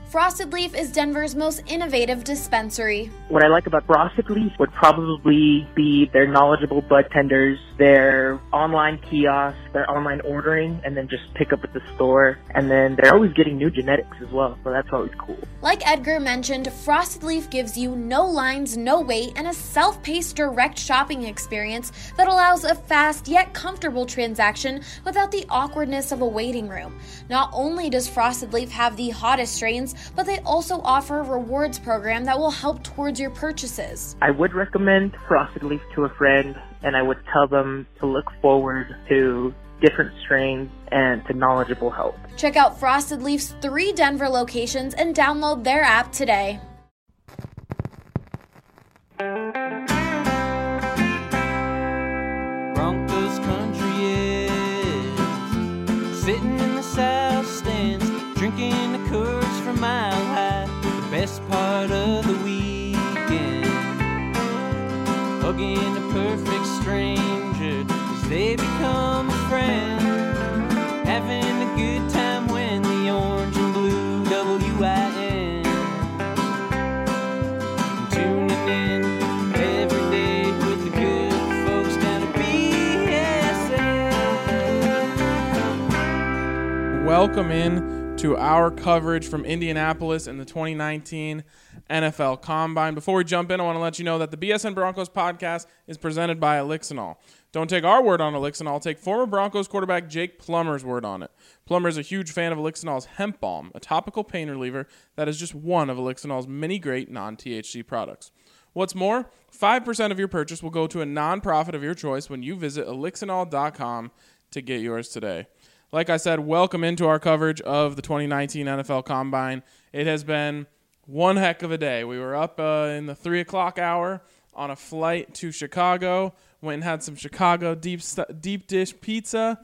Frosted Leaf is Denver's most innovative dispensary. What I like about Frosted Leaf would probably be their knowledgeable bud tenders, their online kiosks, their online ordering, and then just pick up at the store. And then they're always getting new genetics as well, so that's always cool. Like Edgar mentioned, Frosted Leaf gives you no lines, no wait, and a self-paced direct shopping experience that allows a fast yet comfortable transaction without the awkwardness of a waiting room. Not only does Frosted Leaf have the hottest strains, but they also offer a rewards program that will help towards your purchases. I would recommend Frosted Leaf to a friend, and I would tell them to look forward to different strains and to knowledgeable help. Check out Frosted Leaf's 3 Denver locations and download their app today. Broncos country is sitting in the south stands, drinking the Coors from Mile High, the best part of the weekend, hugging a perfect stranger as they become a friend, having a good time when the orange and blue WIN, tuning in every day with the good folks down at BSN. Welcome in to our coverage from Indianapolis in the 2019 NFL Combine. Before we jump in, I want to let you know that the BSN Broncos podcast is presented by Elixinol. Don't take our word on Elixinol. Take former Broncos quarterback Jake Plummer's word on it. Plummer is a huge fan of Elixinol's Hemp Balm, a topical pain reliever that is just one of Elixinol's many great non-THC products. What's more, 5% of your purchase will go to a nonprofit of your choice when you visit elixinol.com to get yours today. Like I said, welcome into our coverage of the 2019 NFL Combine. It has been one heck of a day. We were up in the 3 o'clock hour on a flight to Chicago. Went and had some Chicago deep dish pizza.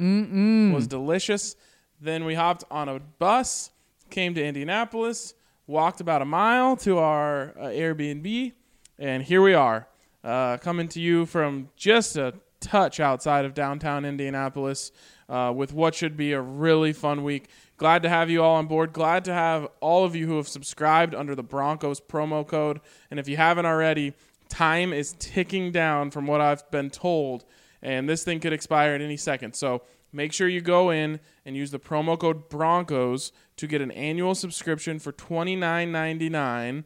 Was delicious. Then we hopped on a bus, came to Indianapolis, walked about a mile to our Airbnb, and here we are, coming to you from just a touch outside of downtown Indianapolis with what should be a really fun week. Glad to have you all on board. Glad to have all of you who have subscribed under the Broncos promo code. And if you haven't already, time is ticking down from what I've been told, and this thing could expire at any second. So make sure you go in and use the promo code Broncos to get an annual subscription for $29.99.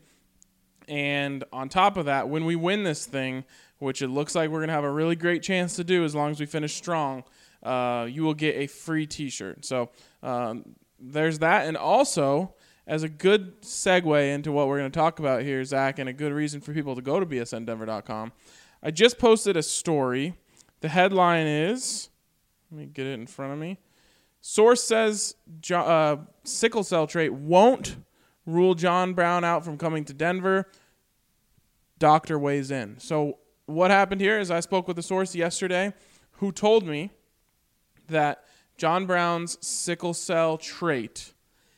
And on top of that, when we win this thing, which it looks like we're going to have a really great chance to do as long as we finish strong, you will get a free t-shirt. So there's that. And also, as a good segue into what we're going to talk about here, Zach, and a good reason for people to go to bsndenver.com, I just posted a story. The headline is, let me get it in front of me. Source says sickle cell trait won't rule John Brown out from coming to Denver. Doctor weighs in. So what happened here is I spoke with a source yesterday who told me that John Brown's sickle cell trait,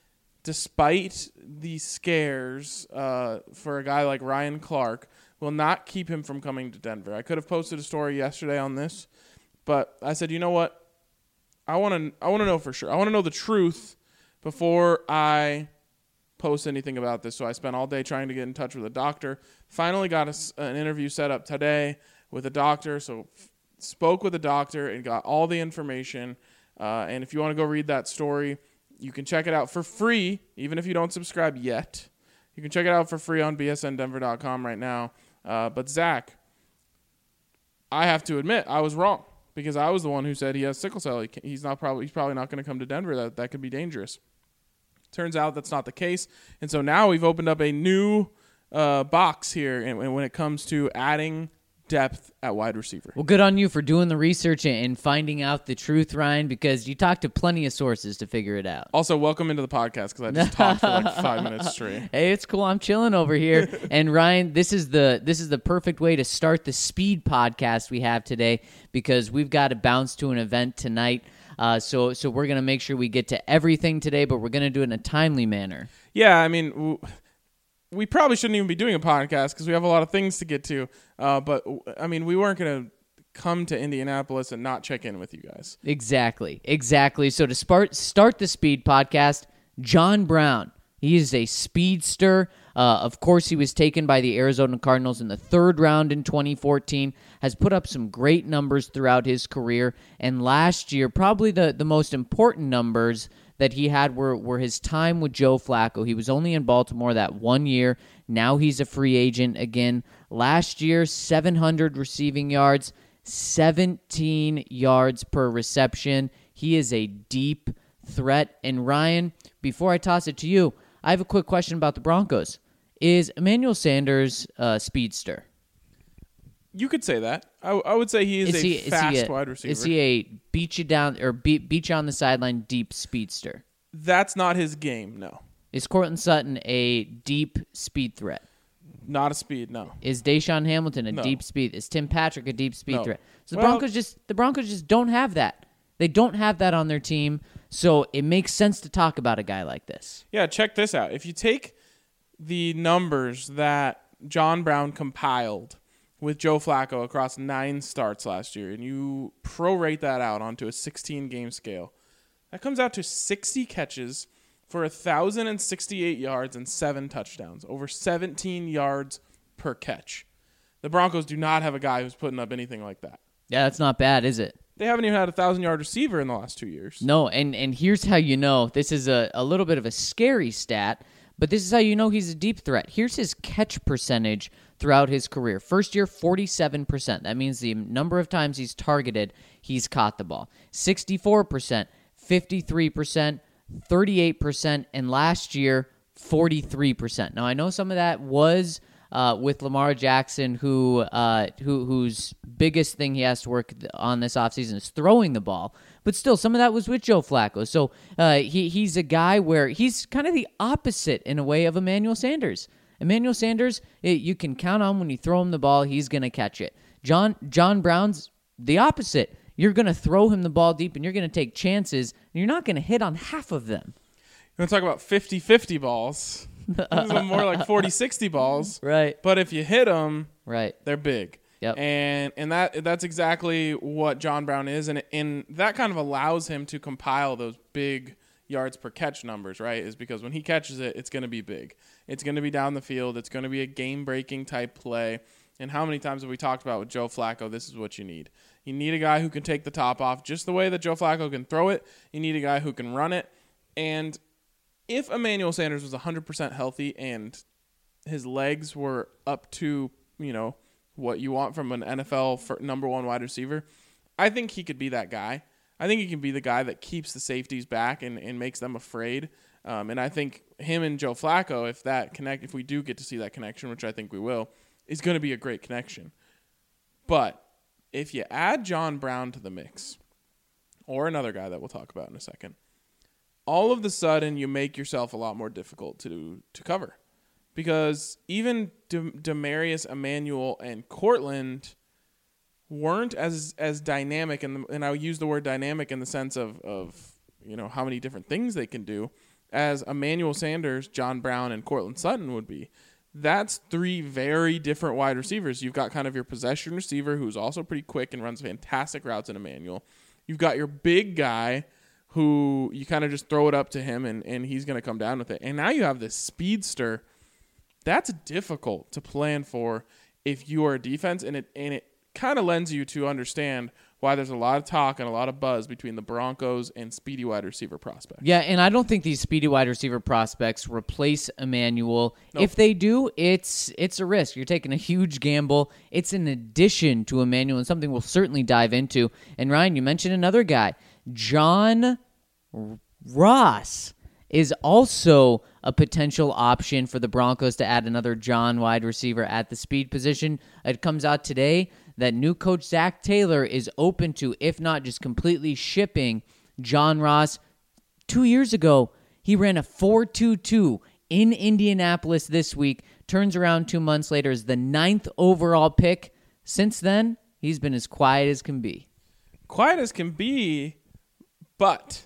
despite the scares for a guy like Ryan Clark, will not keep him from coming to Denver. I could have posted a story yesterday on this, but I said, you know what? I want to know for sure. I want to know the truth before I post anything about this. So I spent all day trying to get in touch with a doctor. Finally got an interview set up today with a doctor. So spoke with a doctor and got all the information. And if you want to go read that story, you can check it out for free, even if you don't subscribe yet. You can check it out for free on bsndenver.com right now. But Zach, I have to admit, I was wrong because I was the one who said he has sickle cell. He's probably not going to come to Denver. That could be dangerous. Turns out that's not the case. And so now we've opened up a new box here and when it comes to adding depth at wide receiver. Well, good on you for doing the research and finding out the truth, Ryan, because you talked to plenty of sources to figure it out. Also, welcome into the podcast because I just talked for like 5 minutes straight. Hey, it's cool. I'm chilling over here. And Ryan, this is the perfect way to start the speed podcast we have today because we've got to bounce to an event tonight. So we're going to make sure we get to everything today, but we're going to do it in a timely manner. Yeah, I mean, we probably shouldn't even be doing a podcast because we have a lot of things to get to. But, I mean, we weren't going to come to Indianapolis and not check in with you guys. Exactly. So to start the speed podcast, John Brown, He is a speedster. Of course, he was taken by the Arizona Cardinals in the 3rd round in 2014, has put up some great numbers throughout his career, and last year, probably the most important numbers that he had were his time with Joe Flacco. He was only in Baltimore that 1 year. Now he's a free agent again. Last year, 700 receiving yards, 17 yards per reception. He is a deep threat. And Ryan, before I toss it to you, I have a quick question about the Broncos. Is Emmanuel Sanders a speedster? You could say that. I would say he is a fast wide receiver. Is he a beat you down or beat you on the sideline deep speedster? That's not his game, no. Is Courtland Sutton a deep speed threat? Not a speed, no. Is Deshaun Hamilton a No. deep speed? Is Tim Patrick a deep speed No. threat? So Well- the Broncos just don't have that. They don't have that on their team, so it makes sense to talk about a guy like this. Yeah, check this out. If you take the numbers that John Brown compiled with Joe Flacco across 9 starts last year, and you prorate that out onto a 16-game scale, that comes out to 60 catches for 1,068 yards and 7 touchdowns, over 17 yards per catch. The Broncos do not have a guy who's putting up anything like that. Yeah, that's not bad, is it? They haven't even had a 1,000-yard receiver in the last 2 years. No, and here's how you know. This is a little bit of a scary stat, but this is how you know he's a deep threat. Here's his catch percentage throughout his career. First year, 47%. That means the number of times he's targeted, he's caught the ball. 64%, 53%, 38%, and last year, 43%. Now, I know some of that was with Lamar Jackson, whose biggest thing he has to work on this offseason is throwing the ball. But still, some of that was with Joe Flacco. So he's a guy where he's kind of the opposite in a way of Emmanuel Sanders. Emmanuel Sanders, you can count on when you throw him the ball, he's going to catch it. John Brown's the opposite. You're going to throw him the ball deep, and you're going to take chances, and you're not going to hit on half of them. You want to talk about 50-50 balls? These are more like 40-60 balls. Right. But if you hit them, Right. they're big. Yep. And that's exactly what John Brown is, and that kind of allows him to compile those big yards per catch numbers, right? Is because when he catches it, it's going to be big. It's going to be down the field. It's going to be a game-breaking type play. And how many times have we talked about with Joe Flacco, this is what you need. You need a guy who can take the top off just the way that Joe Flacco can throw it. You need a guy who can run it. And if Emmanuel Sanders was 100% healthy and his legs were up to, what you want from an NFL number 1 wide receiver, I think he could be that guy. I think he can be the guy that keeps the safeties back and makes them afraid. And I think him and Joe Flacco, if we do get to see that connection, which I think we will, is going to be a great connection. But if you add John Brown to the mix, or another guy that we'll talk about in a second, all of a sudden you make yourself a lot more difficult to cover. Because even Demarius, Emmanuel, and Courtland weren't as dynamic, and I use the word dynamic in the sense of how many different things they can do, as Emmanuel Sanders, John Brown, and Courtland Sutton would be. That's 3 very different wide receivers. You've got kind of your possession receiver who's also pretty quick and runs fantastic routes in Emmanuel. You've got your big guy who you kind of just throw it up to him and he's going to come down with it. And now you have this speedster. That's difficult to plan for if you are a defense, and it kind of lends you to understand why there's a lot of talk and a lot of buzz between the Broncos and speedy wide receiver prospects. Yeah, and I don't think these speedy wide receiver prospects replace Emmanuel. Nope. If they do, it's a risk. You're taking a huge gamble. It's an addition to Emmanuel and something we'll certainly dive into. And Ryan, you mentioned another guy. John Ross is also a potential option for the Broncos to add another John wide receiver at the speed position. It comes out today that new coach Zach Taylor is open to, if not just completely shipping, John Ross. 2 years ago, he ran a 4.22 in Indianapolis this week, turns around 2 months later as the 9th overall pick. Since then, he's been as quiet as can be. Quiet as can be, but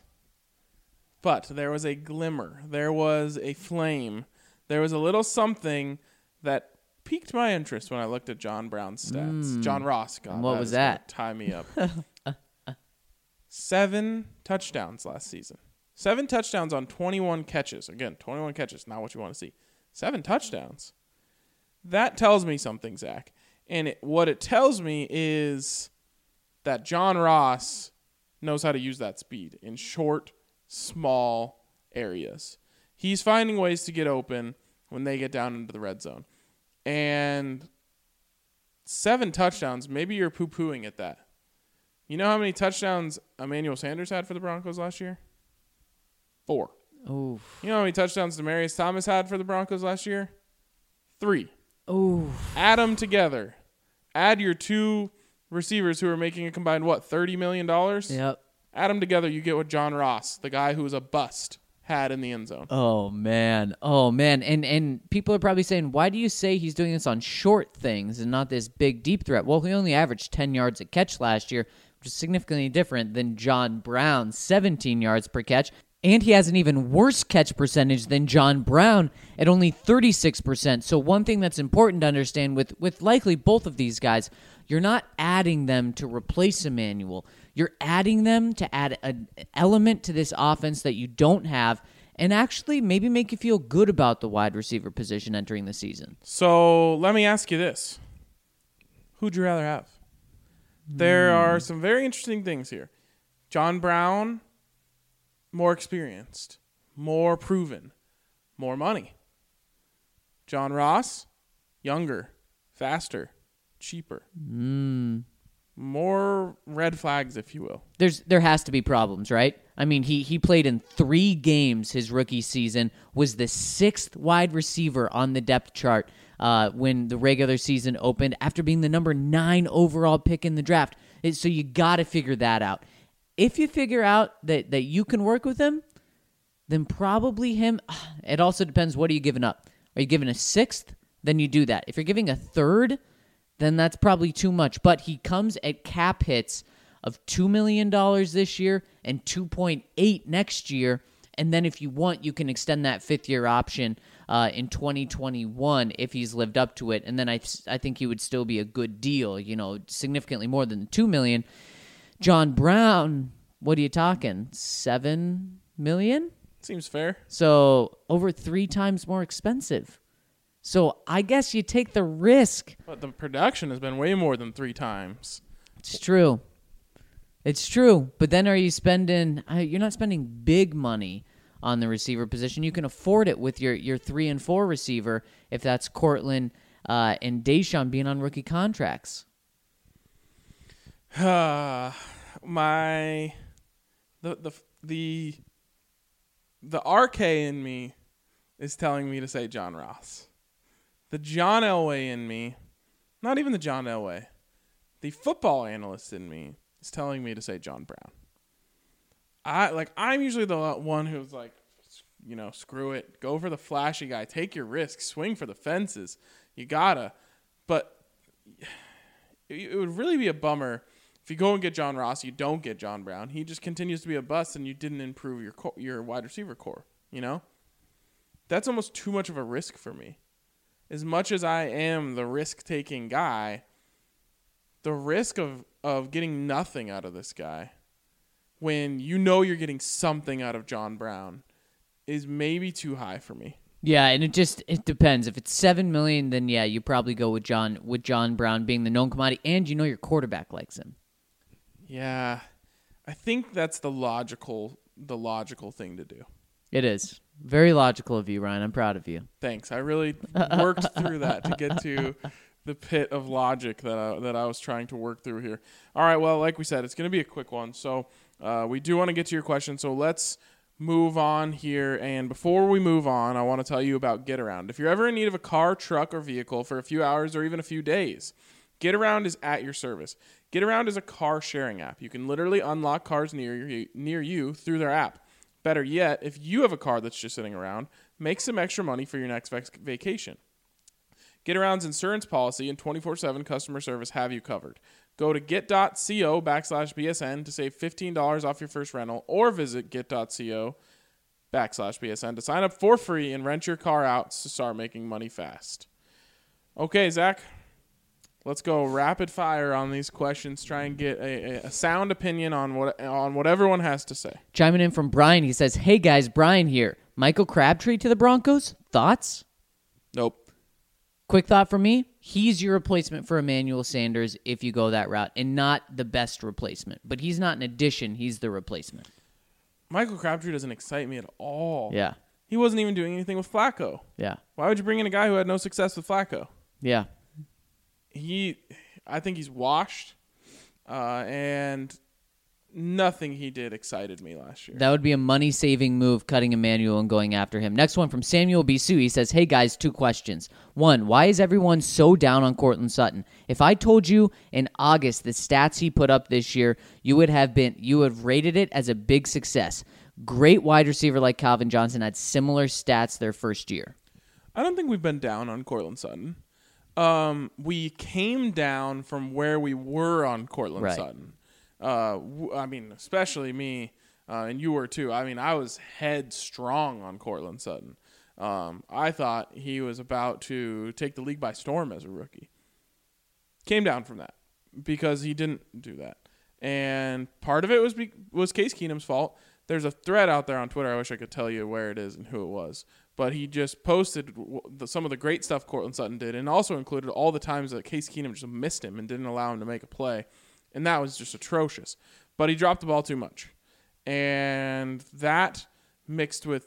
there was a glimmer. There was a flame. There was a little something that piqued my interest when I looked at John Brown's stats. John Ross. God, What was is gonna that? tie me up. 7 touchdowns last season. 7 touchdowns on 21 catches. Again, 21 catches, not what you want to see. 7 touchdowns. That tells me something, Zach. And what it tells me is that John Ross knows how to use that speed in short, small areas. He's finding ways to get open when they get down into the red zone. And 7 touchdowns, maybe you're poo-pooing at that. You know how many touchdowns Emmanuel Sanders had for the Broncos last year? 4. Oof. You know how many touchdowns Demaryius Thomas had for the Broncos last year? 3. Oof. Add them together. Add your 2 receivers who are making a combined, $30 million? Yep. Add them together, you get what John Ross, the guy who was a bust, had in the end zone. Oh, man. And people are probably saying, why do you say he's doing this on short things and not this big, deep threat? Well, he only averaged 10 yards a catch last year, which is significantly different than John Brown's 17 yards per catch. And he has an even worse catch percentage than John Brown at only 36%. So one thing that's important to understand with likely both of these guys, you're not adding them to replace Emmanuel. You're adding them to add an element to this offense that you don't have and actually maybe make you feel good about the wide receiver position entering the season. So let me ask you this. Who'd you rather have? There are some very interesting things here. John Brown, more experienced, more proven, more money. John Ross, younger, faster, cheaper. More red flags, if you will. There has to be problems, right? I mean, he played in 3 games his rookie season, was the 6th wide receiver on the depth chart when the regular season opened after being the number 9 overall pick in the draft. So you got to figure that out. If you figure out that you can work with him, then probably him. It also depends, what are you giving up? Are you giving a 6th? Then you do that. If you're giving a 3rd, then that's probably too much. But he comes at cap hits of $2 million this year and $2.8 next year. And then if you want, you can extend that 5th-year option in 2021 if he's lived up to it. And then I think he would still be a good deal, significantly more than the $2 million. John Brown, what are you talking? $7 million? Seems fair. So over 3 times more expensive. So I guess you take the risk. But the production has been way more than 3 times. It's true. But then are you spending? You're not spending big money on the receiver position. You can afford it with your 3 and 4 receiver if that's Cortland and Deshaun being on rookie contracts. The RK in me is telling me to say John Ross. The John Elway in me, not even the John Elway, the football analyst in me is telling me to say John Brown. I'm usually the one who's like, screw it, go for the flashy guy, take your risks, swing for the fences. You gotta. But it would really be a bummer if you go and get John Ross, you don't get John Brown. He just continues to be a bust, and you didn't improve your wide receiver core. That's almost too much of a risk for me. As much as I am the risk-taking guy, the risk of getting nothing out of this guy when you're getting something out of John Brown is maybe too high for me. Yeah, and it depends. If it's $7 million, then yeah, you probably go with John Brown being the known commodity, and your quarterback likes him. Yeah, I think that's the logical thing to do. It is. Very logical of you, Ryan. I'm proud of you. Thanks. I really worked through that to get to the pit of logic that I was trying to work through here. All right, well, like we said, it's going to be a quick one. So we do want to get to your question, so let's move on here. And before we move on, I want to tell you about GetAround. If you're ever in need of a car, truck, or vehicle for a few hours or even a few days, GetAround is at your service. GetAround is a car sharing app. You can literally unlock cars near you through their app. Better yet, if you have a car that's just sitting around, make some extra money for your next vacation. GetAround's insurance policy and 24/7 customer service have you covered. Go to get.co/BSN to save $15 off your first rental, or visit get.co/BSN to sign up for free and rent your car out to start making money fast. Okay, Zach, Let's go rapid fire on these questions. Try and get a sound opinion on what everyone has to say. Chiming in from Brian, he says, "Hey guys, Brian here. Michael Crabtree to the Broncos? Thoughts?" Nope. Quick thought from me. He's your replacement for Emmanuel Sanders if you go that route, and not the best replacement. But he's not an addition. He's the replacement. Michael Crabtree doesn't excite me at all. Yeah. He wasn't even doing anything with Flacco. Yeah. Why would you bring in a guy who had no success with Flacco? Yeah. I think he's washed, and nothing he did excited me last year. That would be a money-saving move, cutting Emmanuel and going after him. Next one from Samuel Bisu. He says, "Hey guys, 2 questions. 1, why is everyone so down on Courtland Sutton? If I told you in August the stats he put up this year, you would have rated it as a big success. Great wide receiver like Calvin Johnson had similar stats their first year." I don't think we've been down on Courtland Sutton. We came down from where we were on Courtland Right. Sutton. I mean, especially me, and you were too. I mean, I was headstrong on Courtland Sutton. I thought he was about to take the league by storm as a rookie. Came down from that because he didn't do that. And part of it was Case Keenum's fault. There's a thread out there on Twitter. I wish I could tell you where it is and who it was. But he just posted some of the great stuff Courtland Sutton did, and also included all the times that Case Keenum just missed him and didn't allow him to make a play. And that was just atrocious. But he dropped the ball too much. And that mixed with,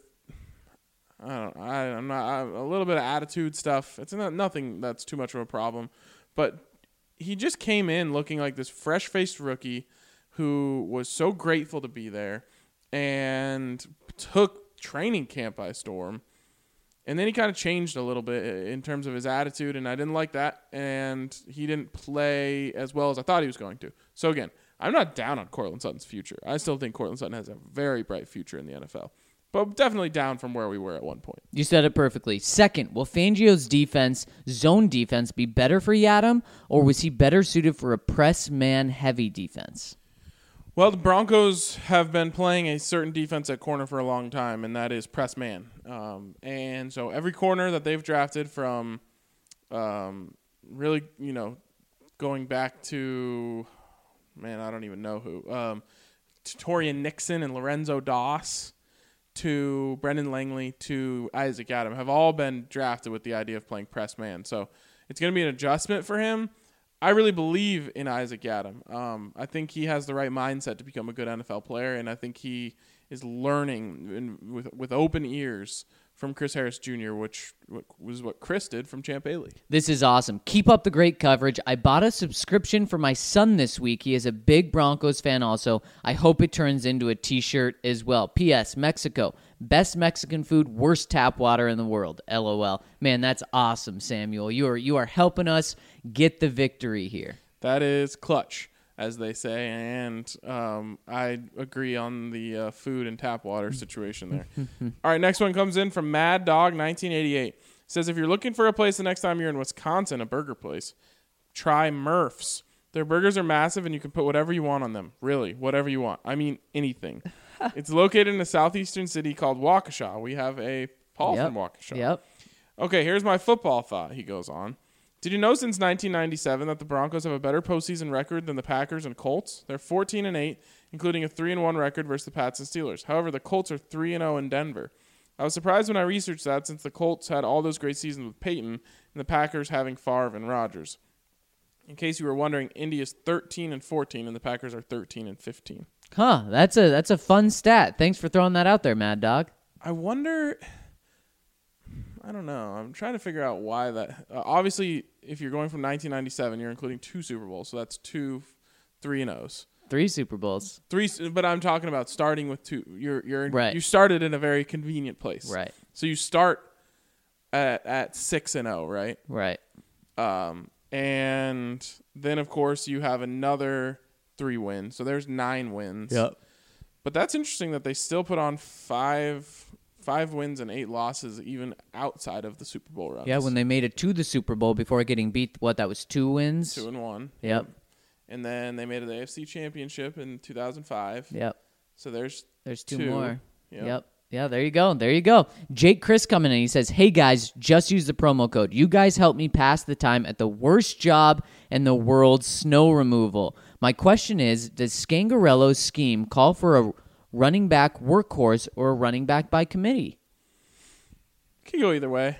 a little bit of attitude stuff. It's nothing that's too much of a problem. But he just came in looking like this fresh-faced rookie who was so grateful to be there and took training camp by storm. And then he kind of changed a little bit in terms of his attitude, and I didn't like that. And he didn't play as well as I thought he was going to. So, again, I'm not down on Courtland Sutton's future. I still think Courtland Sutton has a very bright future in the NFL. But definitely down from where we were at one point. You said it perfectly. Second, will Fangio's zone defense, be better for Yadam, or was he better suited for a press man-heavy defense? Well, the Broncos have been playing a certain defense at corner for a long time, and that is press man. And so every corner that they've drafted from really, going back to, I don't even know who, to Torian Nixon and Lorenzo Doss to Brendan Langley to Isaac Adam have all been drafted with the idea of playing press man. So it's going to be an adjustment for him. I really believe in Isaac Adam. I think he has the right mindset to become a good NFL player, and I think he is learning with open ears from Chris Harris Jr., which was what Chris did from Champ A-League. This is awesome. Keep up the great coverage. I bought a subscription for my son this week. He is a big Broncos fan also. I hope it turns into a t-shirt as well. P.S. Mexico. Best Mexican food, worst tap water in the world. LOL. Man, that's awesome, Samuel. You are helping us get the victory here. That is clutch, as they say, and I agree on the food and tap water situation there. All right, next one comes in from Mad Dog 1988. It says, if you're looking for a place the next time you're in Wisconsin, a burger place, try Murph's. Their burgers are massive, and you can put whatever you want on them. Really, whatever you want. I mean, anything. It's located in a southeastern city called Waukesha. We have a Paul from Waukesha. Yep. Okay, here's my football thought, he goes on. Did you know since 1997 that the Broncos have a better postseason record than the Packers and Colts? They're 14-8, including a 3-1 record versus the Pats and Steelers. However, the Colts are 3-0 in Denver. I was surprised when I researched that since the Colts had all those great seasons with Peyton and the Packers having Favre and Rodgers. In case you were wondering, Indy is 13-14 and the Packers are 13-15. Huh, that's a fun stat. Thanks for throwing that out there, Mad Dog. I wonder, I don't know. I'm trying to figure out why that. Obviously, if you're going from 1997, you're including 2 Super Bowls, so that's 2 3-0s. 3 Super Bowls. 3, but I'm talking about starting with 2. You're right. You started in a very convenient place, Right? So you start at 6-0, right? Right. And then of course you have another 3 wins, so there's 9 wins. Yep. But that's interesting that they still put on 5 wins and 8 losses even outside of the Super Bowl runs. Yeah, when they made it to the Super Bowl before getting beat, that was 2 wins? 2-1. Yep. And then they made it the AFC Championship in 2005. Yep. So there's 2 more. Yep. Yep. Yeah, there you go. There you go. Jake Chris coming in. He says, hey, guys, just use the promo code. You guys helped me pass the time at the worst job in the world, snow removal. My question is, does Scangarello's scheme call for a running back workhorse or a running back by committee? Could go either way.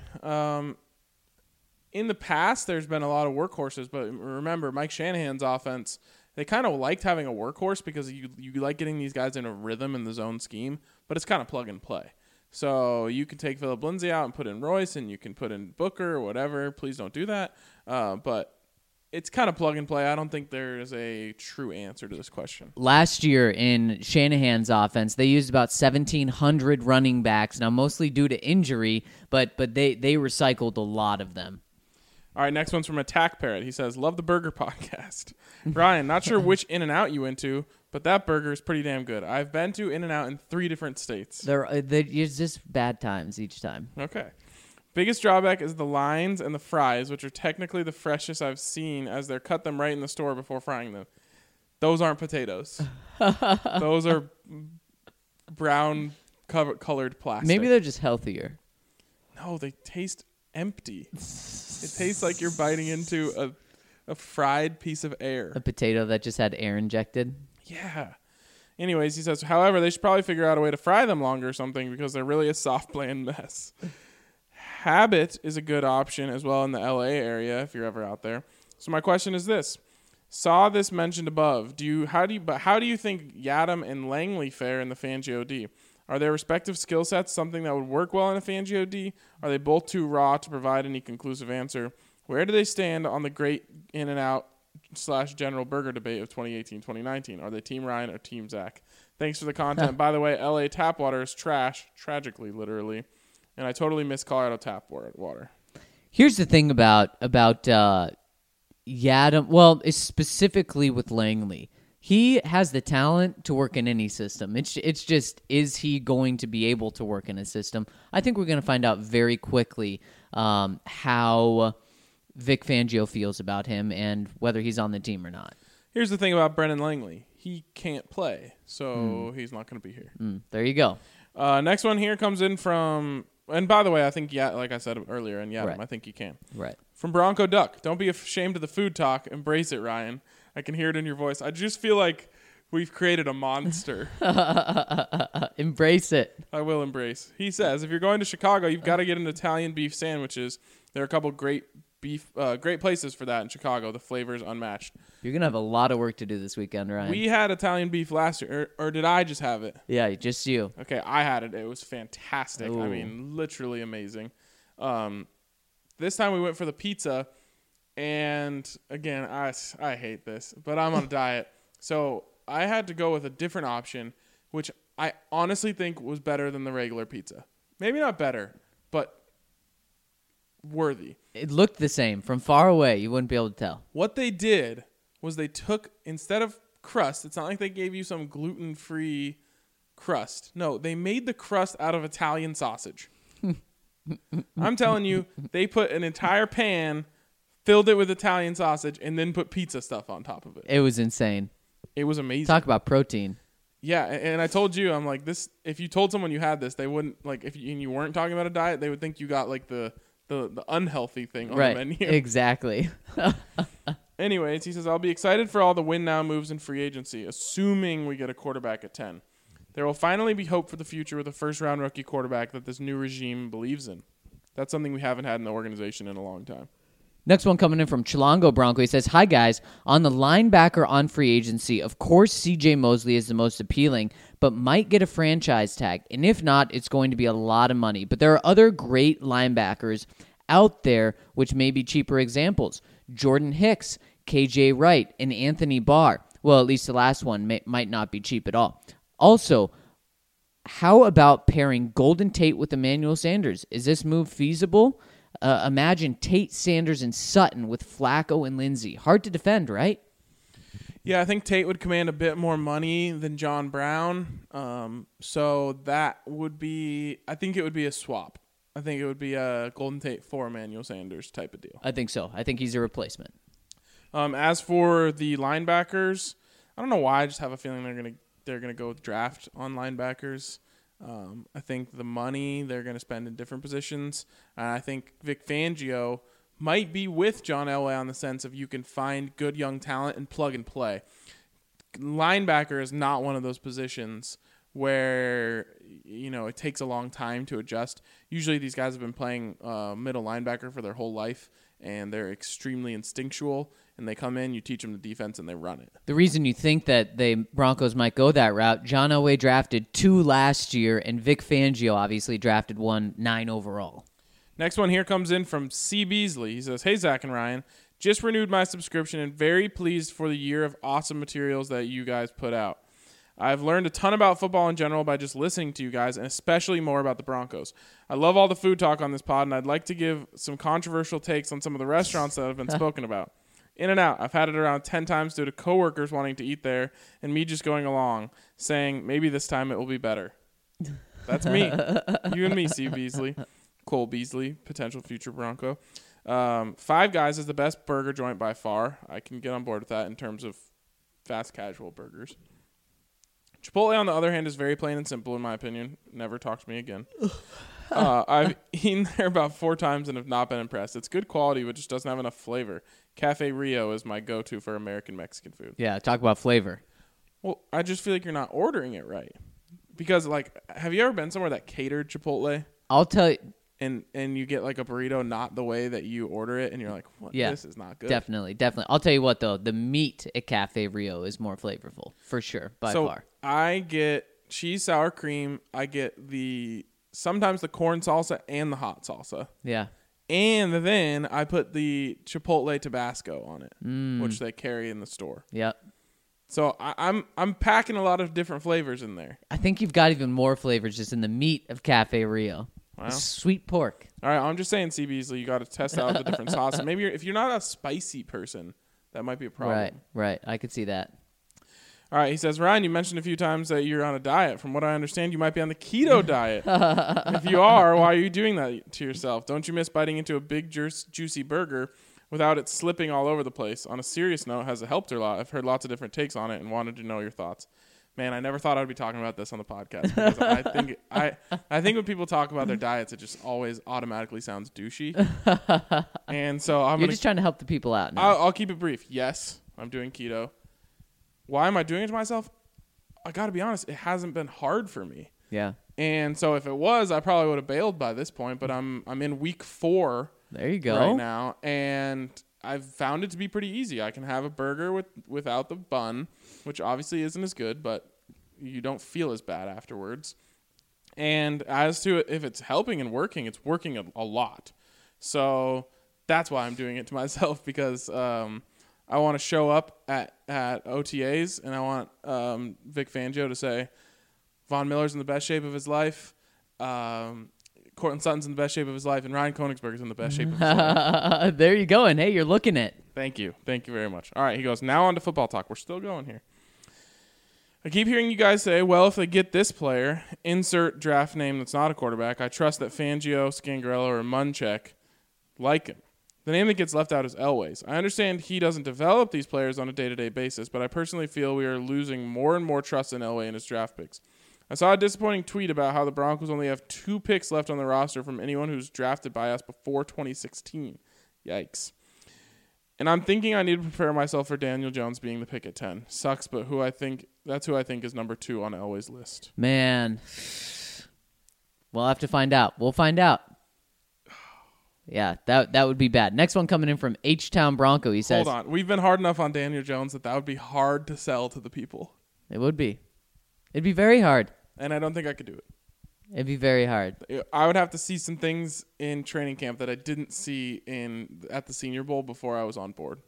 In the past, there's been a lot of workhorses, but remember, Mike Shanahan's offense, they kind of liked having a workhorse because you like getting these guys in a rhythm in the zone scheme, but it's kind of plug and play. So you can take Phillip Lindsay out and put in Royce, and you can put in Booker or whatever. Please don't do that. But it's kind of plug and play. I don't think there is a true answer to this question. Last year in Shanahan's offense, they used about 1,700 running backs, now mostly due to injury, but they recycled a lot of them. All right, next one's from Attack Parrot. He says, love the burger podcast. Ryan, not sure which In-N-Out you went to, but that burger is pretty damn good. I've been to In-N-Out in 3 different states. It's just bad times each time. Okay. Biggest drawback is the lines and the fries, which are technically the freshest I've seen, as they're cut them right in the store before frying them. Those aren't potatoes. Those are brown colored plastic. Maybe they're just healthier. No, they taste empty. It tastes like you're biting into a fried piece of air. A potato that just had air injected. Yeah. Anyways, he says, however, they should probably figure out a way to fry them longer or something because they're really a soft, bland mess. Habit is a good option as well in the LA area if you're ever out there. So my question is this. Saw this mentioned above. How do you think Yadam and Langley fare in the Fangio D? Are their respective skill sets something that would work well in a Fangio D? Are they both too raw to provide any conclusive answer? Where do they stand on the great In-N-Out / General Burger debate of 2018-2019? Are they Team Ryan or Team Zach? Thanks for the content. By the way, LA tap water is trash, tragically, literally. And I totally miss Colorado tap water. Here's the thing about Yadam. Well, it's specifically with Langley. He has the talent to work in any system. It's just, is he going to be able to work in a system? I think we're going to find out very quickly how Vic Fangio feels about him and whether he's on the team or not. Here's the thing about Brennan Langley. He can't play, so he's not going to be here. There you go. Next one here comes in from, and by the way, I think, like I said earlier, in Yadam, right. I think you can. Right. From Bronco Duck. Don't be ashamed of the food talk. Embrace it, Ryan. I can hear it in your voice. I just feel like we've created a monster. Embrace it. I will embrace. He says, if you're going to Chicago, you've got to get an Italian beef sandwiches. There are a couple great places for that in Chicago. The flavor is unmatched. You're going to have a lot of work to do this weekend, Ryan. We had Italian beef last year, or did I just have it? Yeah, just you. Okay, I had it. It was fantastic. Ooh. I mean, literally amazing. This time we went for the pizza. And again, I hate this, but I'm on a diet. So I had to go with a different option, which I honestly think was better than the regular pizza. Maybe not better, but worthy. It looked the same. From far away, you wouldn't be able to tell. What they did was they took, instead of crust, it's not like they gave you some gluten-free crust. No, they made the crust out of Italian sausage. I'm telling you, they put an entire pan, filled it with Italian sausage, and then put pizza stuff on top of it. It was insane. It was amazing. Talk about protein. Yeah, and I told you, I'm like, this. If you told someone you had this, they wouldn't, like, if you weren't talking about a diet, they would think you got, like, the unhealthy thing on the menu. Exactly. Anyways, he says, I'll be excited for all the win now moves in free agency, assuming we get a quarterback at 10. There will finally be hope for the future with a first-round rookie quarterback that this new regime believes in. That's something we haven't had in the organization in a long time. Next one coming in from Chilango Bronco. He says, hi, guys. On the linebacker on free agency, of course C.J. Mosley is the most appealing, but might get a franchise tag. And if not, it's going to be a lot of money. But there are other great linebackers out there which may be cheaper examples. Jordan Hicks, K.J. Wright, and Anthony Barr. Well, at least the last one might not be cheap at all. Also, how about pairing Golden Tate with Emmanuel Sanders? Is this move feasible? Imagine Tate, Sanders, and Sutton with Flacco and Lindsey. Hard to defend, right? Yeah, I think Tate would command a bit more money than John Brown. So that would be, I think it would be a swap. I think it would be a Golden Tate for Emmanuel Sanders type of deal. I think so. I think he's a replacement. As for the linebackers, I don't know why. I just have a feeling they're gonna go with draft on linebackers. I think the money they're going to spend in different positions. I think Vic Fangio might be with John Elway on the sense of you can find good young talent and plug and play. Linebacker is not one of those positions where, it takes a long time to adjust. Usually these guys have been playing middle linebacker for their whole life, and they're extremely instinctual, and they come in, you teach them the defense, and they run it. The reason you think that the Broncos might go that route, John Elway drafted 2 last year, and Vic Fangio obviously drafted 9 overall. Next one here comes in from C. Beasley. He says, "Hey, Zach and Ryan, just renewed my subscription and very pleased for the year of awesome materials that you guys put out. I've learned a ton about football in general by just listening to you guys, and especially more about the Broncos. I love all the food talk on this pod, and I'd like to give some controversial takes on some of the restaurants that have been spoken about. In-N-Out, I've had it around 10 times due to coworkers wanting to eat there and me just going along, saying maybe this time it will be better." That's me. You and me, C. Beasley. Cole Beasley, potential future Bronco. Five Guys is the best burger joint by far. I can get on board with that in terms of fast casual burgers. Chipotle, on the other hand, is very plain and simple, in my opinion. Never talk to me again. I've eaten there about 4 times and have not been impressed. It's good quality, but just doesn't have enough flavor. Cafe Rio is my go-to for American Mexican food. Yeah, talk about flavor. Well, I just feel like you're not ordering it right. Because, have you ever been somewhere that catered Chipotle? I'll tell you. And you get like a burrito not the way that you order it, and you're like, "What? Yeah, this is not good." Definitely. I'll tell you what, though. The meat at Cafe Rio is more flavorful, for sure, by far. I get cheese sour cream. I get sometimes the corn salsa and the hot salsa. Yeah. And then I put the Chipotle Tabasco on it, which they carry in the store. Yep. So I'm packing a lot of different flavors in there. I think you've got even more flavors just in the meat of Cafe Rio. Wow. Sweet pork. All right, I'm just saying, C. Beasley, you got to test out the different sauces. Maybe if you're not a spicy person, that might be a problem. Right. I could see that. All right, he says, "Ryan, you mentioned a few times that you're on a diet. From what I understand, you might be on the keto diet. If you are, why are you doing that to yourself? Don't you miss biting into a big, juicy burger without it slipping all over the place? On a serious note, has it helped her a lot? I've heard lots of different takes on it and wanted to know your thoughts." Man, I never thought I'd be talking about this on the podcast because I think when people talk about their diets, it just always automatically sounds douchey. And so You're just trying to help the people out now. I'll keep it brief. Yes, I'm doing keto. Why am I doing it to myself? I got to be honest, it hasn't been hard for me. Yeah. And so if it was, I probably would have bailed by this point. But I'm in week 4. There you go. Right now, and I've found it to be pretty easy. I can have a burger without the bun, which obviously isn't as good, but you don't feel as bad afterwards. And as to if it's helping and working, it's working a lot. So that's why I'm doing it to myself, because I want to show up at OTAs, and I want Vic Fangio to say, Von Miller's in the best shape of his life, Cortland Sutton's in the best shape of his life, and Ryan Koenigsberg is in the best shape of his life. There you go. And hey, you're looking it. Thank you. Thank you very much. All right, he goes, now on to football talk. We're still going here. I keep hearing you guys say, well, if they get this player, insert draft name that's not a quarterback, I trust that Fangio, Scangarello, or Munchak like him. The name that gets left out is Elway's. I understand he doesn't develop these players on a day-to-day basis, but I personally feel we are losing more and more trust in Elway and his draft picks. I saw a disappointing tweet about how the Broncos only have 2 picks left on the roster from anyone who's drafted by us before 2016. Yikes. And I'm thinking I need to prepare myself for Daniel Jones being the pick at 10. Sucks, but that's who I think is number 2 on Elway's list. Man. We'll have to find out. We'll find out. Yeah, that would be bad. Next one coming in from H-Town Bronco. He says, hold on. We've been hard enough on Daniel Jones that would be hard to sell to the people. It would be. It'd be very hard. And I don't think I could do it. It'd be very hard. I would have to see some things in training camp that I didn't see at the Senior Bowl before I was on board.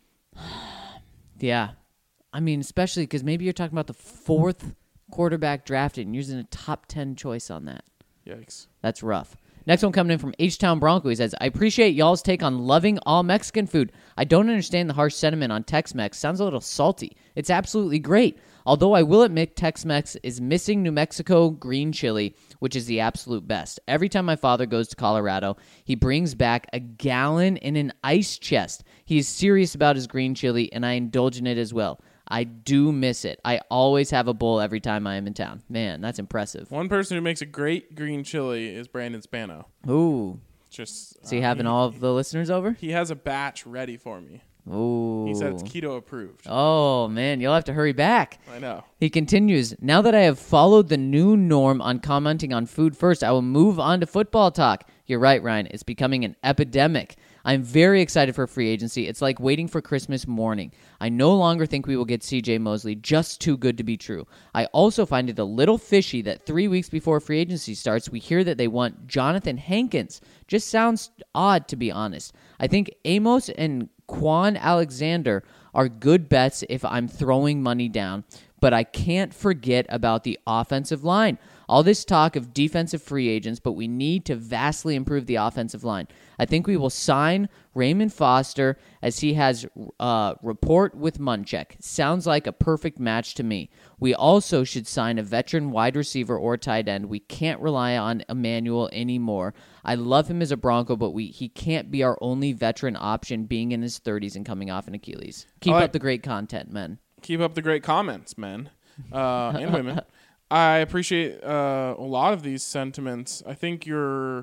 Yeah. I mean, especially because maybe you're talking about the 4th quarterback drafted and you're using a top 10 choice on that. Yikes. That's rough. Next one coming in from H-Town Bronco. He says, I appreciate y'all's take on loving all Mexican food. I don't understand the harsh sentiment on Tex-Mex. Sounds a little salty. It's absolutely great. Although I will admit Tex-Mex is missing New Mexico green chili, which is the absolute best. Every time my father goes to Colorado, he brings back a gallon in an ice chest. He is serious about his green chili, and I indulge in it as well. I do miss it. I always have a bowl every time I am in town. Man, that's impressive. One person who makes a great green chili is Brandon Spano. Ooh. Just Is he having all of the listeners over? He has a batch ready for me. Ooh. He said it's keto approved. Oh, man, you'll have to hurry back. I know. He continues, now that I have followed the new norm on commenting on food first, I will move on to football talk. You're right, Ryan. It's becoming an epidemic. I'm very excited for free agency. It's like waiting for Christmas morning. I no longer think we will get CJ Mosley, just too good to be true. I also find it a little fishy that 3 weeks before free agency starts, we hear that they want Jonathan Hankins. Just sounds odd, to be honest. I think Amos and Quan Alexander are good bets if I'm throwing money down, but I can't forget about the offensive line. All this talk of defensive free agents, but we need to vastly improve the offensive line. I think we will sign Raymond Foster as he has rapport with Munchak. Sounds like a perfect match to me. We also should sign a veteran wide receiver or tight end. We can't rely on Emmanuel anymore. I love him as a Bronco, but he can't be our only veteran option being in his 30s and coming off an Achilles. Keep up the great content, men. Keep up the great comments, men and women. I appreciate a lot of these sentiments. I think you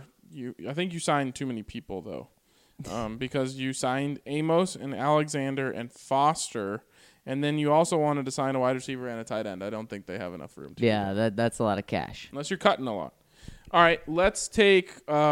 signed too many people though, because you signed Amos and Alexander and Foster, and then you also wanted to sign a wide receiver and a tight end. I don't think they have enough room. That's a lot of cash. Unless you're cutting a lot. All right, let's take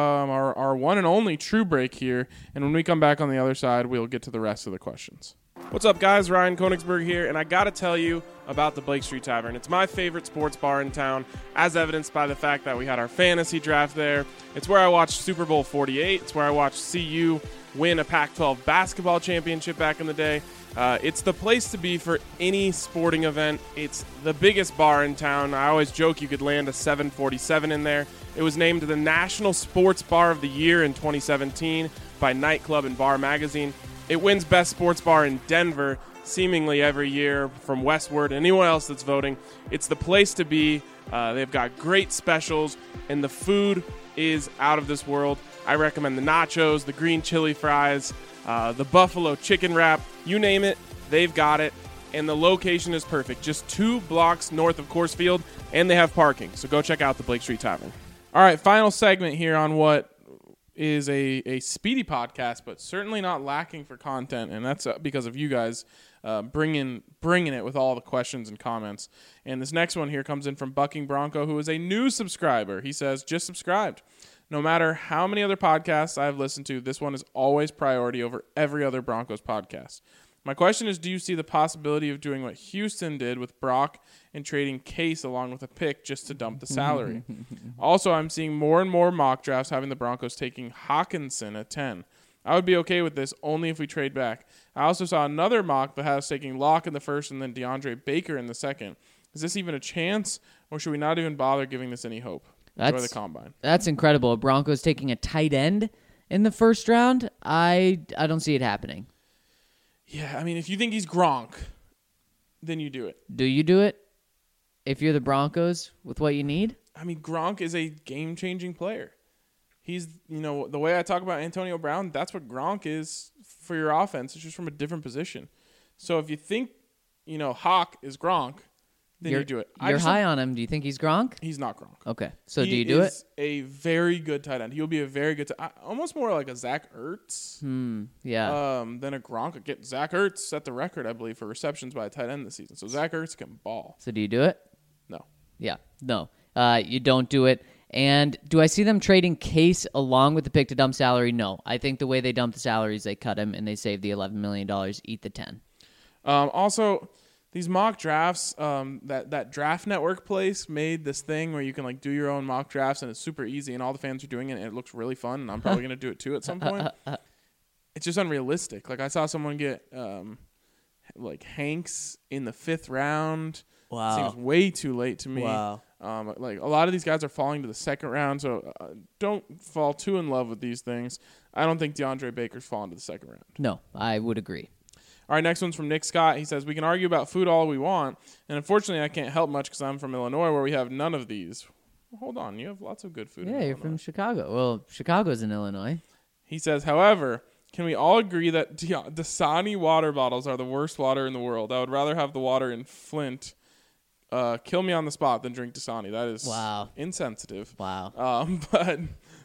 our one and only true break here, and when we come back on the other side, we'll get to the rest of the questions. What's up, guys? Ryan Koenigsberg here, and I got to tell you about the Blake Street Tavern. It's my favorite sports bar in town, as evidenced by the fact that we had our fantasy draft there. It's where I watched Super Bowl 48. It's where I watched CU win a Pac-12 basketball championship back in the day. It's the place to be for any sporting event. It's the biggest bar in town. I always joke you could land a 747 in there. It was named the National Sports Bar of the Year in 2017 by Nightclub and Bar Magazine. It wins Best Sports Bar in Denver seemingly every year from Westward. Anyone else that's voting, it's the place to be. They've got great specials, and the food is out of this world. I recommend the nachos, the green chili fries, the buffalo chicken wrap. You name it, they've got it. And the location is perfect. Just 2 blocks north of Coors Field, and they have parking. So go check out the Blake Street Tavern. All right, final segment here on what is a speedy podcast, but certainly not lacking for content, and that's because of you guys bringing it with all the questions and comments. And this next one here comes in from Bucking Bronco, who is a new subscriber. He says, just subscribed. No matter how many other podcasts I've listened to, this one is always priority over every other Broncos podcast. My question is, do you see the possibility of doing what Houston did with Brock and trading Case along with a pick just to dump the salary? Also, I'm seeing more and more mock drafts having the Broncos taking Hawkinson at 10. I would be okay with this only if we trade back. I also saw another mock that has taking Locke in the first and then DeAndre Baker in the second. Is this even a chance, or should we not even bother giving this any hope? Enjoy the combine. That's incredible. Broncos taking a tight end in the first round? I don't see it happening. Yeah, I mean, if you think he's Gronk, then you do it. Do you do it if you're the Broncos with what you need? I mean, Gronk is a game-changing player. He's, the way I talk about Antonio Brown, that's what Gronk is for your offense. It's just from a different position. So if you think, Hawk is Gronk, then you do it. You're high on him. Do you think he's Gronk? He's not Gronk. Okay. So do you do it? He is a very good tight end. He'll be a very good almost more like a Zach Ertz. Yeah. Than a Gronk. Zach Ertz set the record, I believe, for receptions by a tight end this season. So Zach Ertz can ball. So do you do it? No. Yeah. No. You don't do it. And do I see them trading Case along with the pick to dump salary? No. I think the way they dump the salary is they cut him and they save the $11 million, eat the 10. Also, these mock drafts, that Draft Network place made this thing where you can do your own mock drafts, and it's super easy, and all the fans are doing it, and it looks really fun, and I'm probably going to do it too at some point. It's just unrealistic. I saw someone get Hanks in the 5th round. Wow. Seems way too late to me. Wow. A lot of these guys are falling to the 2nd round, so don't fall too in love with these things. I don't think DeAndre Baker's falling to the 2nd round. No, I would agree. All right, next one's from Nick Scott. He says, we can argue about food all we want, and unfortunately I can't help much because I'm from Illinois where we have none of these. Well, hold on, you have lots of good food in Yeah, you're Illinois. from Chicago. Well, Chicago's in Illinois. He says, however, Can we all agree that Dasani water bottles are the worst water in the world? I would rather have the water in Flint kill me on the spot than drink Dasani. That is insensitive. Wow. But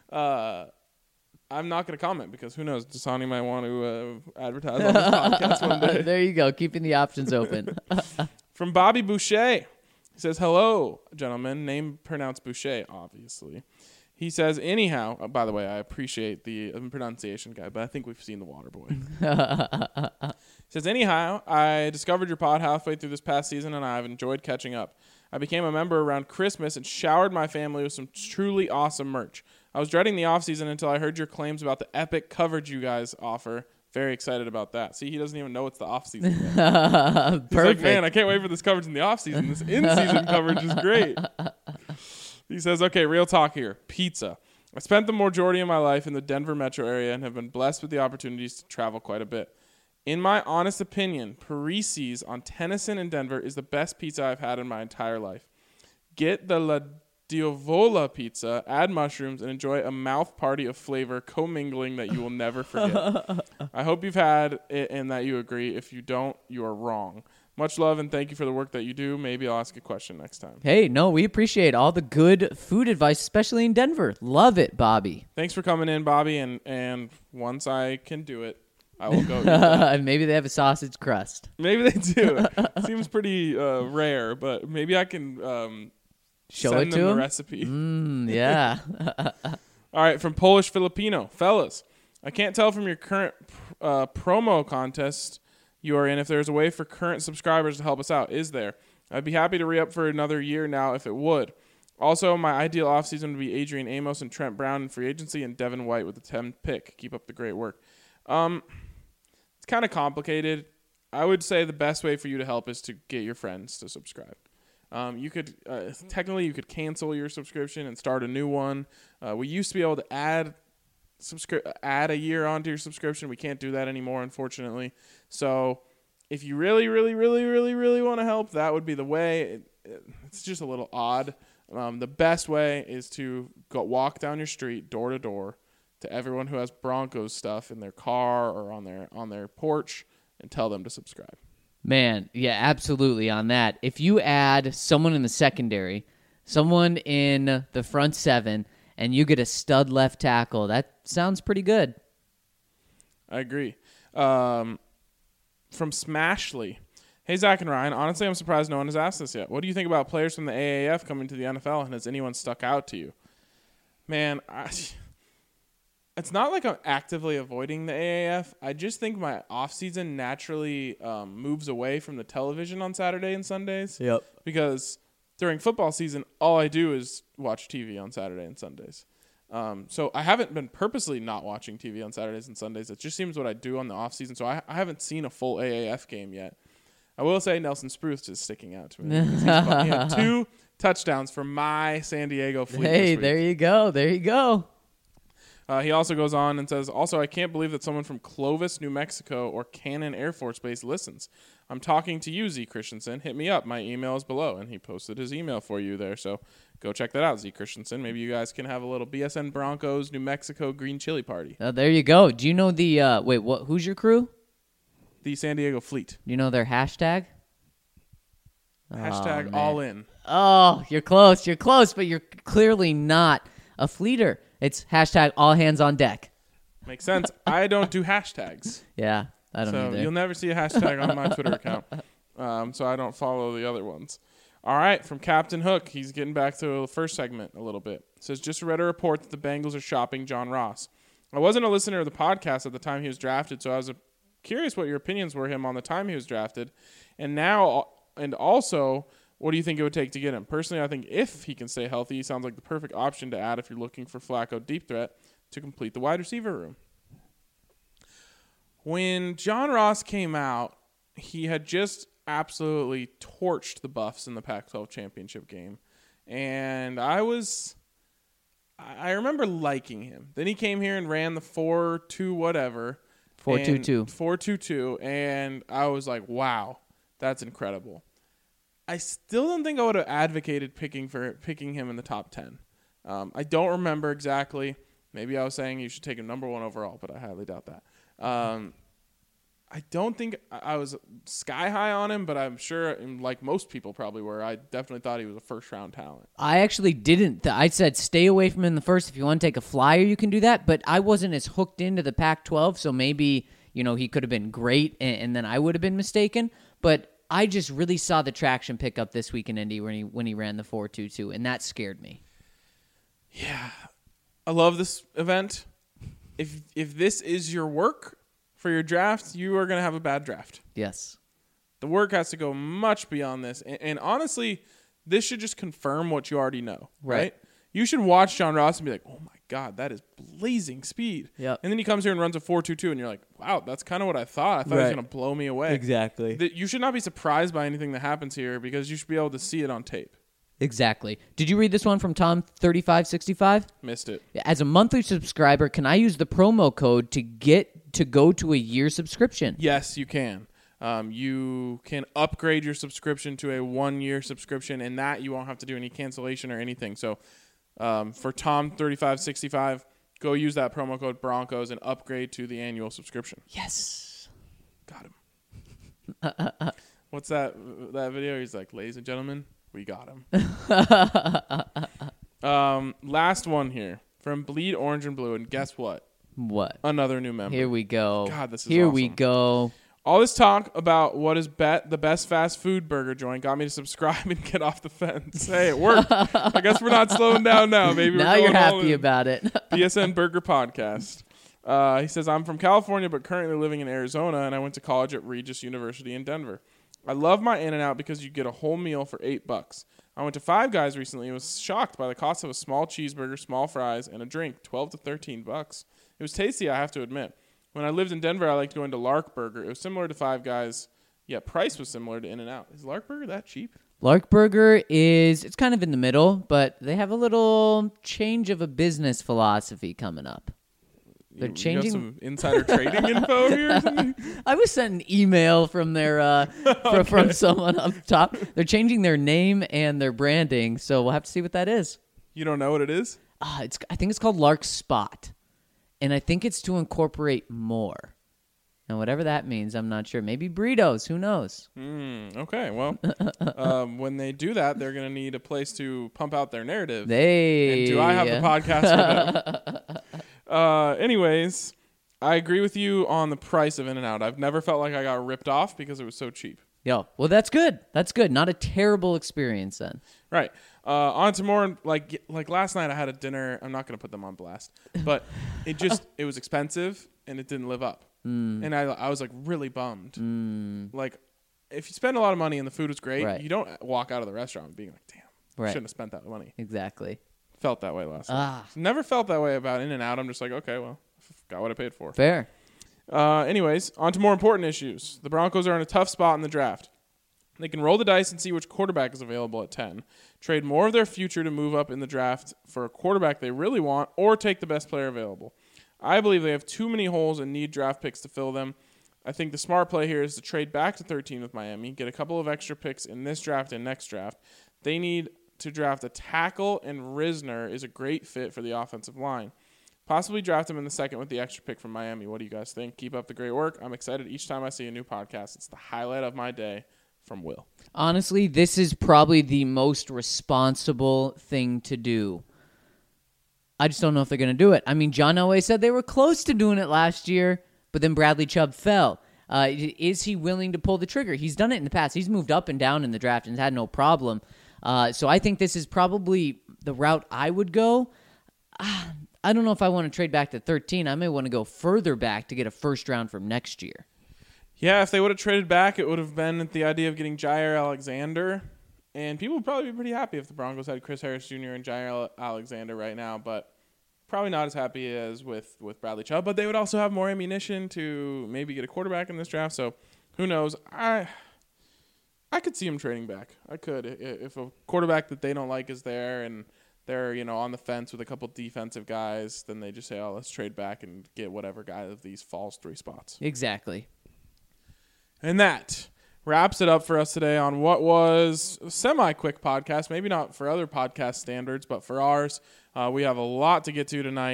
I'm not going to comment because who knows? Dasani might want to advertise on this podcast one day. There you go. Keeping the options open. From Bobby Boucher. He says, hello, gentlemen. Name pronounced Boucher, obviously. He says, anyhow, by the way, I appreciate the pronunciation guy, but I think we've seen the water boy. He says, anyhow, I discovered your pod halfway through this past season, and I've enjoyed catching up. I became a member around Christmas and showered my family with some truly awesome merch. I was dreading the offseason until I heard your claims about the epic coverage you guys offer. Very excited about that. See, he doesn't even know it's the offseason yet. He's like, man, I can't wait for this coverage in the offseason. This in-season coverage is great. He says, okay, real talk here. Pizza. I spent the majority of my life in the Denver metro area and have been blessed with the opportunities to travel quite a bit. In my honest opinion, Parisi's on Tennyson in Denver is the best pizza I've had in my entire life. Get the La Diavola pizza, add mushrooms, and enjoy a mouth party of flavor commingling that you will never forget. I hope you've had it and that you agree. If you don't, you are wrong. Much love and thank you for the work that you do. Maybe I'll ask a question next time. Hey, no, we appreciate all the good food advice, especially in Denver. Love it, Bobby. Thanks for coming in, Bobby, and once I can do it, I will go eat that. Maybe they have a sausage crust. Maybe they do. Seems pretty rare, but maybe I can Show send it to them the him? recipe. Yeah. All right, from Polish Filipino. Fellas, I can't tell from your current promo contest you are in if there's a way for current subscribers to help us out. Is there? I'd be happy to re-up for another year now if it would. Also, my ideal offseason would be Adrian Amos and Trent Brown in free agency and Devin White with the 10th pick. Keep up the great work. It's kind of complicated. I would say the best way for you to help is to get your friends to subscribe. You could technically you could cancel your subscription and start a new one. We used to be able to add a year onto your subscription. We can't do that anymore, unfortunately. So if you really, really, really, really, really want to help, that would be the way. It's just a little odd. The best way is to go walk down your street door to door to everyone who has Broncos stuff in their car or on their porch and tell them to subscribe. Man, yeah, absolutely on that. If you add someone in the secondary, someone in the front seven, and you get a stud left tackle, that sounds pretty good. I agree. From Smashley. Hey, Zach and Ryan. Honestly, I'm surprised no one has asked this yet. What do you think about players from the AAF coming to the NFL, and has anyone stuck out to you? Man, it's not like I'm actively avoiding the AAF. I just think my offseason naturally moves away from the television on Saturday and Sundays. Yep. Because during football season, all I do is watch TV on Saturday and Sundays. So I haven't been purposely not watching TV on Saturdays and Sundays. It just seems what I do on the offseason. So I haven't seen a full AAF game yet. I will say Nelson Spruce is sticking out to me. He had 2 touchdowns for my San Diego Fleet. Hey, there you go. There you go. He also goes on and says, also, I can't believe that someone from Clovis, New Mexico, or Cannon Air Force Base listens. I'm talking to you, Z Christensen. Hit me up. My email is below. And he posted his email for you there. So go check that out, Z Christensen. Maybe you guys can have a little BSN Broncos, New Mexico green chili party. There you go. Do you know the, who's your crew? The San Diego Fleet. Do you know their hashtag? Hashtag all in. Oh, you're close. You're close, but you're clearly not a fleeter. It's hashtag all hands on deck. Makes sense. I don't do hashtags. Yeah, I don't either. So you'll never see a hashtag on my Twitter account. So I don't follow the other ones. All right, from Captain Hook. He's getting back to the first segment a little bit. It says, just read a report that the Bengals are shopping John Ross. I wasn't a listener of the podcast at the time he was drafted, so I was curious what your opinions were him on the time he was drafted. And also, what do you think it would take to get him? Personally, I think if he can stay healthy, he sounds like the perfect option to add if you're looking for Flacco deep threat to complete the wide receiver room. When John Ross came out, he had just absolutely torched the Buffs in the Pac-12 championship game. And I remember liking him. Then he came here and ran the 4-2 whatever. 4-2-2. 4-2-2. And I was like, wow, that's incredible. I still don't think I would have advocated picking him in the top 10. I don't remember exactly. Maybe I was saying you should take him number 1 overall, but I highly doubt that. I don't think I was sky high on him, but I'm sure, like most people probably were, I definitely thought he was a first-round talent. I actually didn't. I said stay away from him in the first. If you want to take a flyer, you can do that. But I wasn't as hooked into the Pac-12, so maybe he could have been great, and then I would have been mistaken. But I just really saw the traction pick up this week in Indy when he ran the 4.22, and that scared me. Yeah, I love this event. If this is your work for your draft, you are going to have a bad draft. Yes. The work has to go much beyond this. And honestly, this should just confirm what you already know, right? You should watch John Ross and be like, oh, my God, that is blazing speed. Yep. And then he comes here and runs a 4.22, and you're like, wow, that's kind of what I thought. I thought he was going to blow me away. Exactly. You should not be surprised by anything that happens here because you should be able to see it on tape. Exactly. Did you read this one from Tom3565? Missed it. As a monthly subscriber, can I use the promo code to go to a year subscription? Yes, you can. You can upgrade your subscription to a 1-year subscription, and that you won't have to do any cancellation or anything. So for Tom3565, go use that promo code Broncos and upgrade to the annual subscription. Yes. Got him. What's that video? He's like, ladies and gentlemen, we got him. Last one here from Bleed Orange and Blue, and guess what? What? Another new member. Here we go. God, this is Here awesome. we go. All this talk about what is the best fast food burger joint got me to subscribe and get off the fence. Hey, it worked. I guess we're not slowing down now. Maybe now we're you're going all happy in. about it. BSN Burger Podcast. He says, I'm from California, but currently living in Arizona, and I went to college at Regis University in Denver. I love my In-N-Out because you get a whole meal for $8. I went to Five Guys recently and was shocked by the cost of a small cheeseburger, small fries, and a drink, $12 to $13. It was tasty, I have to admit. When I lived in Denver, I liked going to Lark Burger. It was similar to Five Guys, yet price was similar to In-N-Out. Is Lark Burger that cheap? Lark Burger it's kind of in the middle, but they have a little change of a business philosophy coming up. They're changing. You got some insider trading info here or something? I was sent an email from their from someone up top. They're changing their name and their branding, so we'll have to see what that is. You don't know what it is? I think it's called Lark Spot, and I think it's to incorporate more. Now, whatever that means, I'm not sure. Maybe burritos. Who knows? Okay, well, when they do that, they're going to need a place to pump out their narrative. Hey. And do I have the podcast for them? Anyways, I agree with you on the price of In-N-Out. I've never felt like I got ripped off because it was so cheap. Well, that's good. That's good. Not a terrible experience then. Right. On to more, like last night I had a dinner. I'm not going to put them on blast, but it was expensive and it didn't live up. And I was like really bummed. Like if you spend a lot of money and the food was great, Right. you don't walk out of the restaurant being like, damn, Right. shouldn't have spent that money. Exactly. Felt that way last night. Never felt that way about In-N-Out. I'm just like, okay, well, got what I paid for. Fair. Anyways, on to more important issues. The Broncos are in a tough spot in the draft. They can roll the dice and see which quarterback is available at 10, trade more of their future to move up in the draft for a quarterback they really want, or take the best player available. I believe they have too many holes and need draft picks to fill them. I think the smart play here is to trade back to 13 with Miami, get a couple of extra picks in this draft and next draft. They need to draft a tackle, and Risner is a great fit for the offensive line. Possibly draft him in the second with the extra pick from Miami. What do you guys think? Keep up the great work. I'm excited each time I see a new podcast. It's the highlight of my day. From Will. Honestly, this is probably the most responsible thing to do. I just don't know if they're going to do it. I mean, John Elway said they were close to doing it last year, but then Bradley Chubb fell. Is he willing to pull the trigger? He's done it in the past. He's moved up and down in the draft and had no problem. So I think this is probably the route I would go. I don't know if I want to trade back to 13. I may want to go further back to get a first round from next year. Yeah, if they would have traded back, it would have been the idea of getting Jair Alexander. And people would probably be pretty happy if the Broncos had Chris Harris Jr. and Jair Alexander right now, but probably not as happy as with Bradley Chubb. But they would also have more ammunition to maybe get a quarterback in this draft. So who knows? I could see him trading back. I could. If a quarterback that they don't like is there and they're, on the fence with a couple defensive guys, then they just say, oh, let's trade back and get whatever guy of these falls 3 spots. Exactly. And that wraps it up for us today on what was a semi-quick podcast. Maybe not for other podcast standards, but for ours. We have a lot to get to tonight.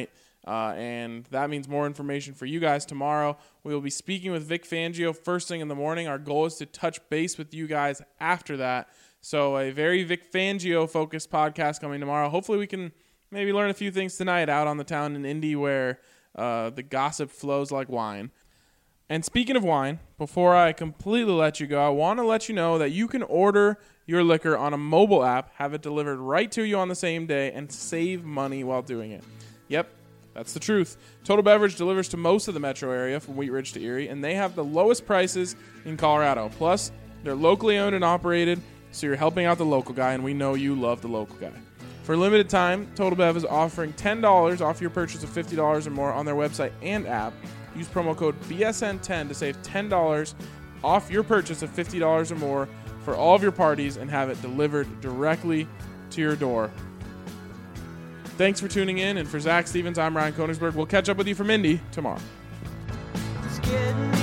And that means more information for you guys tomorrow. We will be speaking with Vic Fangio first thing in the morning. Our goal is to touch base with you guys after that. So a very Vic Fangio-focused podcast coming tomorrow. Hopefully we can maybe learn a few things tonight out on the town in Indy where the gossip flows like wine. And speaking of wine, before I completely let you go, I want to let you know that you can order your liquor on a mobile app, have it delivered right to you on the same day, and save money while doing it. Yep, that's the truth. Total Beverage delivers to most of the metro area from Wheat Ridge to Erie, and they have the lowest prices in Colorado. Plus, they're locally owned and operated, so you're helping out the local guy, and we know you love the local guy. For a limited time, Total Bev is offering $10 off your purchase of $50 or more on their website and app. Use promo code BSN10 to save $10 off your purchase of $50 or more for all of your parties and have it delivered directly to your door. Thanks for tuning in, and for Zach Stevens, I'm Ryan Koenigsberg. We'll catch up with you from Indy tomorrow. It's getting